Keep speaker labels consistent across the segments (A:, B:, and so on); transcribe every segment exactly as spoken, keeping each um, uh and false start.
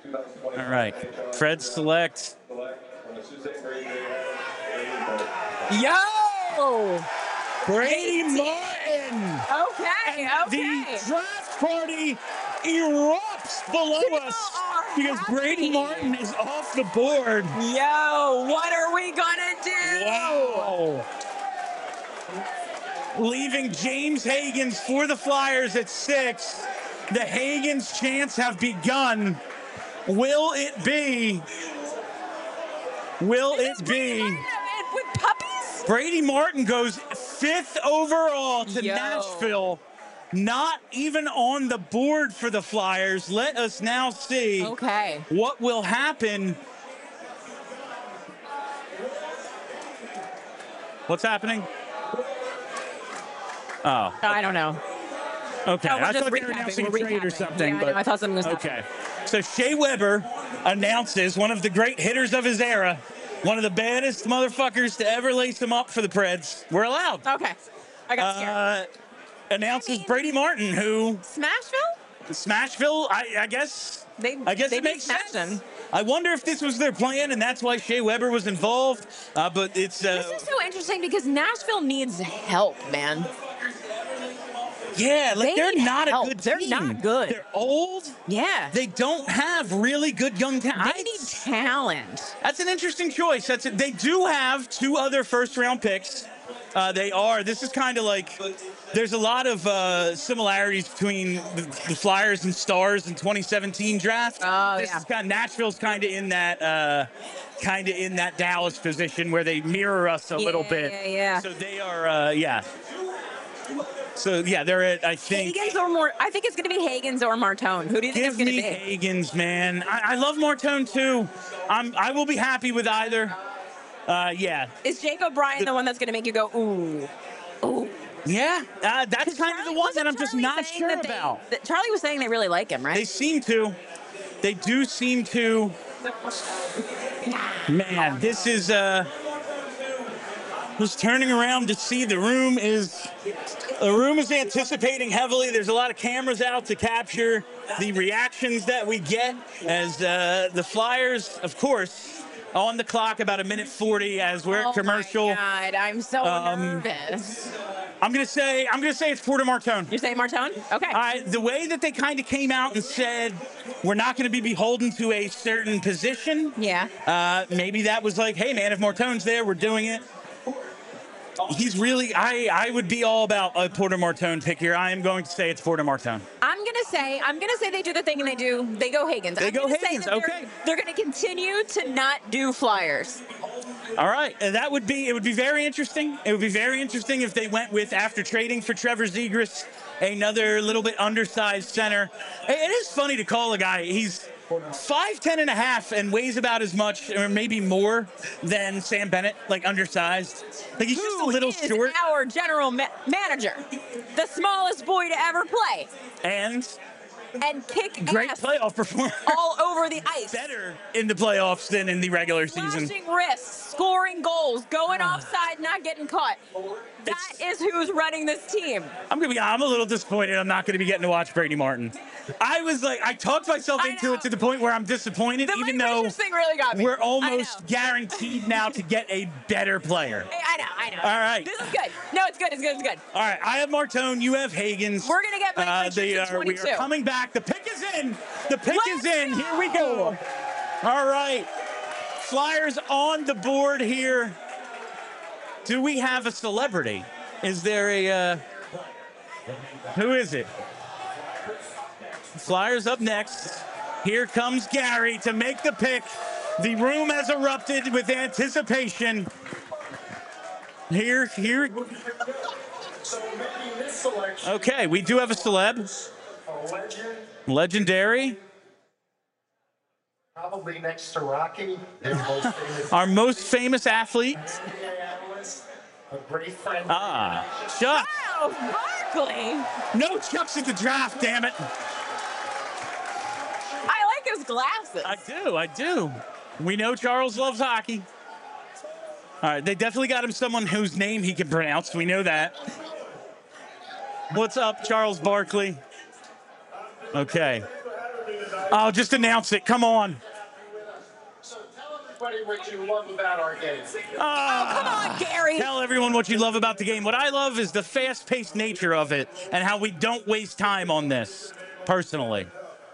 A: All right. Fred select.
B: Yo!
A: Brady Martin.
B: Okay,
A: And
B: okay.
A: the draft party erupts below
B: People
A: us
B: are
A: because
B: happy.
A: Brady Martin is off the board.
B: Yo, what are we gonna do?
A: Wow. Leaving James Hagans for the Flyers at six. The Hagans chants have begun. Will it be? Will
B: Is
A: it
B: this Brady
A: be?
B: Martin with puppies?
A: Brady Martin goes fifth overall to
B: Yo.
A: Nashville. Not even on the board for the Flyers. Let us now see
B: Okay.
A: what will happen. What's happening? Oh,
B: I don't know.
A: okay.
B: No, we're
A: I
B: just
A: thought they were
B: recapping,
A: announcing a
B: we're
A: trade or
B: recapping.
A: something.
B: Yeah, I
A: but
B: know, I thought something was happening.
A: okay. So Shea Weber announces one of the great hitters of his era, one of the baddest motherfuckers to ever lace him up for the Preds. We're allowed.
B: Okay. I got scared.
A: Uh, announces
B: I mean-
A: Brady Martin, who
B: Smashville?
A: Smashville. I, I guess.
B: They,
A: I guess
B: they
A: it
B: beat
A: makes sense.
B: Smashton.
A: I wonder if this was their plan, and that's why Shea Weber was involved. Uh, but it's uh,
B: This is so interesting because Nashville needs help, man.
A: yeah, like
B: They
A: they're
B: need
A: not
B: help.
A: a good
B: They're
A: team.
B: not good.
A: They're old.
B: Yeah.
A: They don't have really good young talent.
B: They need talent.
A: That's an interesting choice. That's it. They do have two other first-round picks. Uh, they are. This is kind of like. There's a lot of uh, similarities between the, the Flyers and Stars in twenty seventeen draft.
B: Oh,
A: this
B: yeah.
A: is kind of Nashville's kind of in that. Uh, kind of in that Dallas position where they mirror us a little
B: Yeah,
A: bit.
B: yeah, yeah.
A: So they are. Uh, yeah. So yeah, they're at. I think.
B: Hagans or more? I think it's going to be Hagans or Martone. Who do you think
A: Give
B: it's going to
A: me
B: be?
A: Hagans, man. I, I love Martone too. I'm. I will be happy with either. Uh, yeah.
B: Is Jake O'Brien the,
A: The-
B: one that's going to make you go ooh, ooh?
A: Yeah, uh, that's kind of the
B: Charlie-
A: one that
B: wasn't
A: I'm just
B: Charlie
A: not
B: saying
A: sure
B: that they-
A: about.
B: that Charlie was saying they really like him, right?
A: They seem to. They do seem to. Man, this is uh just turning around to see the room is the room is anticipating heavily. There's a lot of cameras out to capture the reactions that we get as uh, the Flyers, of course, on the clock about a minute forty as we're
B: oh
A: at commercial.
B: my God, I'm so
A: Um,
B: nervous.
A: I'm gonna say I'm gonna say it's Porter Martone.
B: You're saying Martone? Okay.
A: I, the way that they kind of came out and said we're not going to be beholden to a certain position.
B: yeah.
A: Uh, maybe that was like, hey man, if Martone's there, we're doing it. He's really, I, I would be all about a Porter Martone pick here. I am going to say it's Porter Martone.
B: I'm gonna say I'm gonna say they do the thing and they do they go Hagans.
A: They
B: I'm
A: go
B: gonna say
A: Hagans,
B: that they're-
A: okay.
B: They're gonna continue to not do Flyers.
A: All right, and that would be, it would be very interesting. It would be very interesting if they went with, after trading for Trevor Zegras, another little bit undersized center. It it is funny to call a guy, he's five ten and a half and weighs about as much or maybe more than Sam Bennett, like undersized. Like he's just a
B: Who
A: little
B: is
A: short.
B: our general ma- manager, the smallest boy to ever play
A: And
B: and kick
A: great
B: ass
A: playoff performance.
B: all over the ice.
A: Better in the playoffs than in the regular season.
B: Flashing wrists, scoring goals, going offside, not getting caught. That is who's running this team.
A: I'm gonna be. I'm a little disappointed. I'm not gonna be getting to watch Brady Martin. I was like, I talked myself
B: I
A: into
B: know.
A: it to the point where I'm disappointed,
B: The
A: even
B: Lake
A: though
B: Rangers thing really got me.
A: we're
B: I
A: almost
B: know.
A: guaranteed now to get a better player.
B: Hey, I know, I know.
A: All right.
B: This is good. No, it's good, it's good, it's good.
A: All right, I have Martone. You have Hagans.
B: We're gonna get Blake
A: Uh,
B: Richards
A: they
B: at
A: are, we are
B: twenty-two.
A: coming back. The pick is in. The pick
B: Let's
A: is in. Here we go. All right. Flyers on the board here. Do we have a celebrity? Is there a, uh, who is it? Flyers up next. Here comes Gary to make the pick. The room has erupted with anticipation. Here, here. Okay, we do have a celeb. Legendary.
C: Probably next to Rocky, their most famous
A: Our most famous athlete.
C: analyst, a great friend.
A: Ah, Chuck.
B: Charles Barkley.
A: No Chucks at the draft, damn it.
B: I like his glasses.
A: I do, I do. We know Charles loves hockey. All right, they definitely got him someone whose name he can pronounce. We know that. What's up, Charles Barkley? Okay. Oh, just announce it. Come on.
C: So tell everybody what you love about our game.
B: Oh, come on, Gary.
A: Tell everyone what you love about the game. What I love is the fast-paced nature of it and how we don't waste time on this, personally.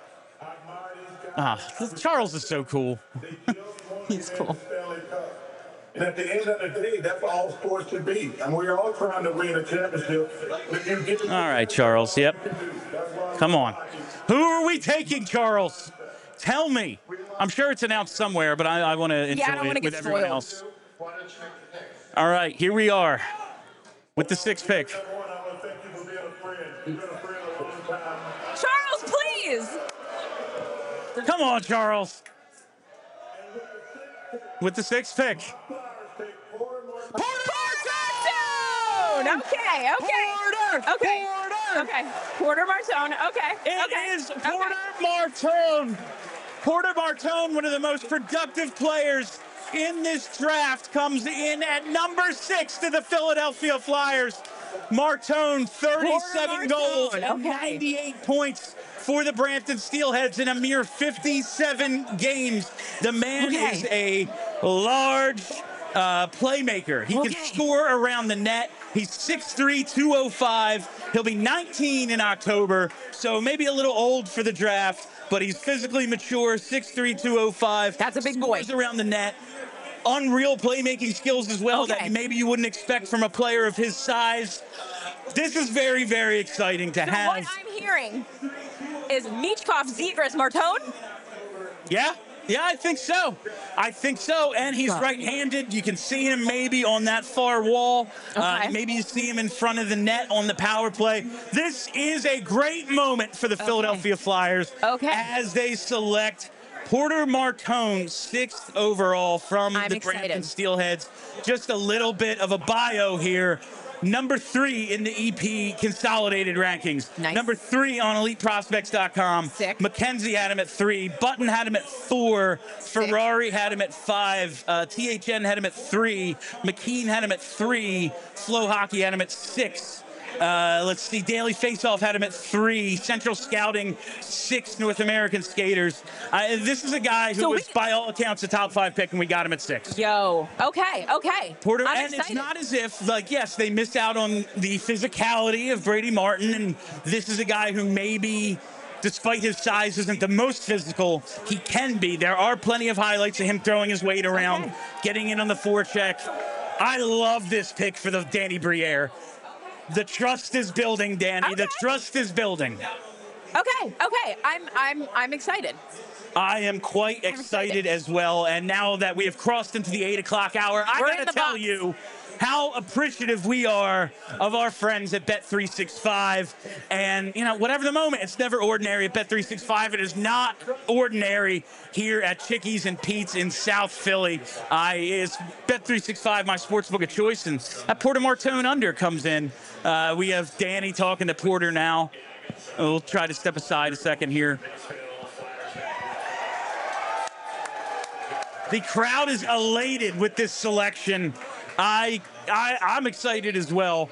A: Ah, Charles is so cool.
B: He's cool.
D: And at the end of the day, that's all sports should be. And we're all trying to win a championship.
A: All right, Charles. Yep. Come on. Who are we taking, Charles? Tell me. I'm sure it's announced somewhere, but I, I want to enjoy
B: Yeah, I don't
A: it
B: wanna
A: with
B: get
A: everyone
B: spoiled.
A: else.
C: Why don't you make the pick?
A: All right, here we are with the sixth pick.
B: Charles, please.
A: Come on, Charles. With the sixth pick.
B: Martone. Okay, okay.
A: Porter.
B: Okay.
A: Porter.
B: Okay. Porter Martone. Okay.
A: It
B: okay.
A: is
B: okay.
A: Porter Martone. Porter Martone, one of the most productive players in this draft, comes in at number six to the Philadelphia Flyers. Martone, thirty-seven
B: Porter
A: goals
B: Martone,
A: and
B: okay.
A: ninety-eight points for the Brampton Steelheads in a mere fifty-seven games. The man
B: Okay.
A: is a large uh, playmaker. He
B: Okay.
A: can score around the net. He's six three, two oh five. He'll be nineteen in October, so maybe a little old for the draft, but he's physically mature, six three, two oh five.
B: That's a big boy.
A: Scores around the net. Unreal playmaking skills as well
B: Okay.
A: that maybe you wouldn't expect from a player of his size. This is very, very exciting to
B: So
A: have.
B: what I'm hearing is Michkov, Zegras, Martone.
A: Yeah, yeah, I think so. I think so. And he's
B: Got it.
A: right-handed. You can see him maybe on that far wall. Uh,
B: Okay.
A: maybe you see him in front of the net on the power play. This is a great moment for the Philadelphia Flyers
B: Okay.
A: as they select Porter Martone, sixth overall from
B: I'm
A: the
B: excited.
A: Brampton Steelheads. Just a little bit of a bio here. Number three in the E P consolidated rankings.
B: Nice.
A: Number three on elite prospects dot com.
B: Sick.
A: Mackenzie had him at three. Button had him at four. Ferrari had him at five. Uh, T H N had him at three. McKean had him at three. Flow Hockey had him at six. Uh, let's see. Daily Faceoff had him at three. Central Scouting, six North American skaters. Uh, this is a guy who
B: So we-
A: was, by all accounts, a top five pick, and we got him at six.
B: Yo. Okay. Okay.
A: Porter,
B: I'm
A: and
B: excited.
A: it's not as if, like, yes, they missed out on the physicality of Brady Martin, and this is a guy who maybe, despite his size, isn't the most physical. He can be. There are plenty of highlights of him throwing his weight around,
B: Okay.
A: getting in on the forecheck. I love this pick for the Danny Briere. The trust is building, Danny. The
B: Okay.
A: trust is building.
B: Okay. Okay. I'm. I'm. I'm excited.
A: I am quite
B: I'm
A: excited,
B: excited.
A: as well. And now that we have crossed into the eight o'clock hour, I
B: We're in
A: gotta
B: the
A: tell
B: box.
A: you how appreciative we are of our friends at Bet three sixty-five. And, you know, whatever the moment, it's never ordinary at Bet three sixty-five. It is not ordinary here at Chickies and Pete's in South Philly. I is Bet three sixty-five my sportsbook of choice, and that Porter Martone under comes in. Uh, we have Danny talking to Porter now. We'll try to step aside a second here. The crowd is elated with this selection. I, I, I'm excited as well.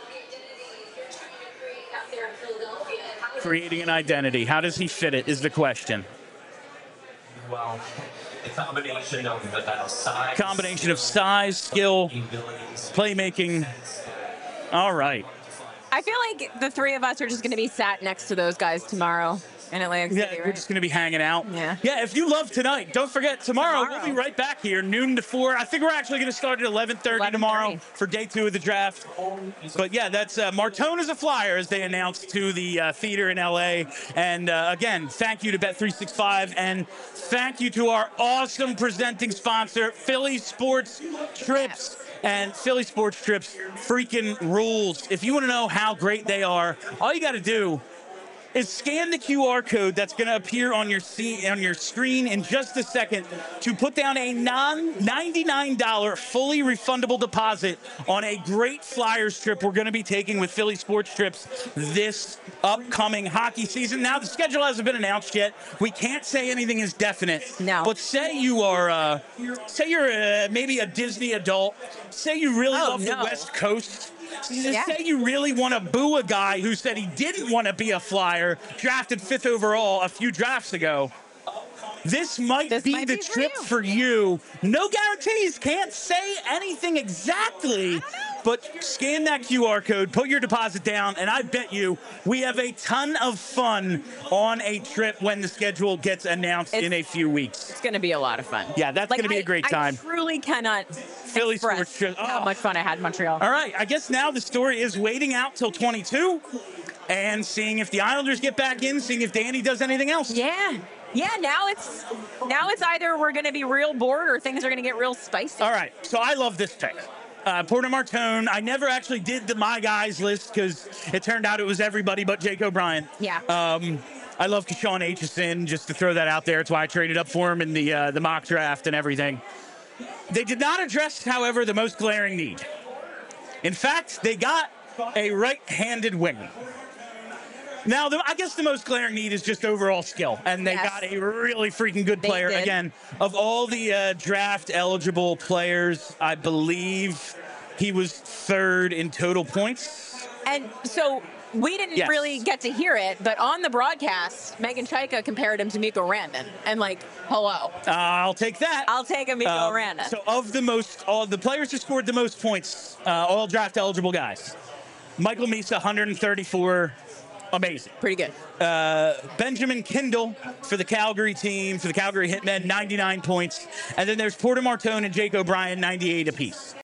A: Creating an identity. How does he fit it is the question.
E: Well, a combination of uh, size,
A: Combination of size, skill,
E: abilities,
A: playmaking. All right.
B: I feel like the three of us are just going to be sat next to those guys tomorrow in Atlantic
A: Yeah,
B: City,
A: we're
B: right?
A: just going to be hanging out.
B: Yeah.
A: Yeah, if you love tonight, don't forget, tomorrow, we'll
B: Tomorrow.
A: be right back here, noon to four. I think we're actually going to start at eleven thirty tomorrow
B: eleven thirty.
A: for day two of the draft. But yeah, that's uh, Martone is a Flyer, as they announced to the uh, theater in L A. And uh, again, thank you to Bet three sixty-five, and thank you to our awesome presenting sponsor, Philly Sports Trips. And Philly Sports Trips freaking rules. If you want to know how great they are, all you got to do is scan the Q R code that's going to appear on your C- on your screen in just a second to put down a non ninety-nine dollars fully refundable deposit on a great Flyers trip we're going to be taking with Philly Sports Trips this upcoming hockey season. Now, the schedule hasn't been announced yet. We can't say anything is definite.
B: No.
A: But say you are, uh, say you're uh, maybe a Disney adult. Say you really
B: Oh,
A: love the
B: no.
A: West Coast.
B: Yeah.
A: Say you really want to boo a guy who said he didn't want to be a Flyer, drafted fifth overall a few drafts ago. this might
B: This
A: be
B: might
A: the
B: be for
A: trip
B: you.
A: for you. No guarantees. Can't say anything exactly. But scan that Q R code, put your deposit down, and I bet you we have a ton of fun on a trip when the schedule gets announced
B: It's-
A: in a few weeks.
B: It's going to be a lot of fun.
A: Yeah, that's
B: Like,
A: gonna be a
B: I-
A: great time.
B: I truly cannot
A: Philly
B: express
A: sports trip.
B: how
A: Oh.
B: much fun I had in Montreal.
A: All right, I guess now the story is waiting out till twenty-two and seeing if the Islanders get back in, seeing if Danny does anything else.
B: Yeah. Yeah, now it's now it's either we're going to be real bored or things are going to get real spicy.
A: All right, so I love this pick. Uh, Porter Martone. I never actually did the My Guys list because it turned out it was everybody but Jake O'Brien.
B: Yeah.
A: Um, I love Keshawn Aitchison, just to throw that out there. It's why I traded up for him in the uh, the mock draft and everything. They did not address, however, the most glaring need. In fact, they got a right-handed winger. Now, the, I guess the most glaring need is just overall skill, and they
B: Yes.
A: got a really freaking good
B: They
A: player.
B: did.
A: Again, of all the uh, draft-eligible players, I believe he was third in total points.
B: And so we didn't
A: Yes.
B: really get to hear it, but on the broadcast, Megan Chaika compared him to Mikko Rantanen. And like, hello.
A: Uh, I'll take that.
B: I'll take a Mikko
A: Uh,
B: Rantanen.
A: So, of the most, all the players who scored the most points, uh, all draft-eligible guys, Michael Misa, one hundred thirty-four. Amazing.
B: Pretty good.
A: Uh, Benjamin Kindle for the Calgary team, for the Calgary Hitmen, ninety-nine points. And then there's Porter Martone and Jake O'Brien, ninety-eight apiece.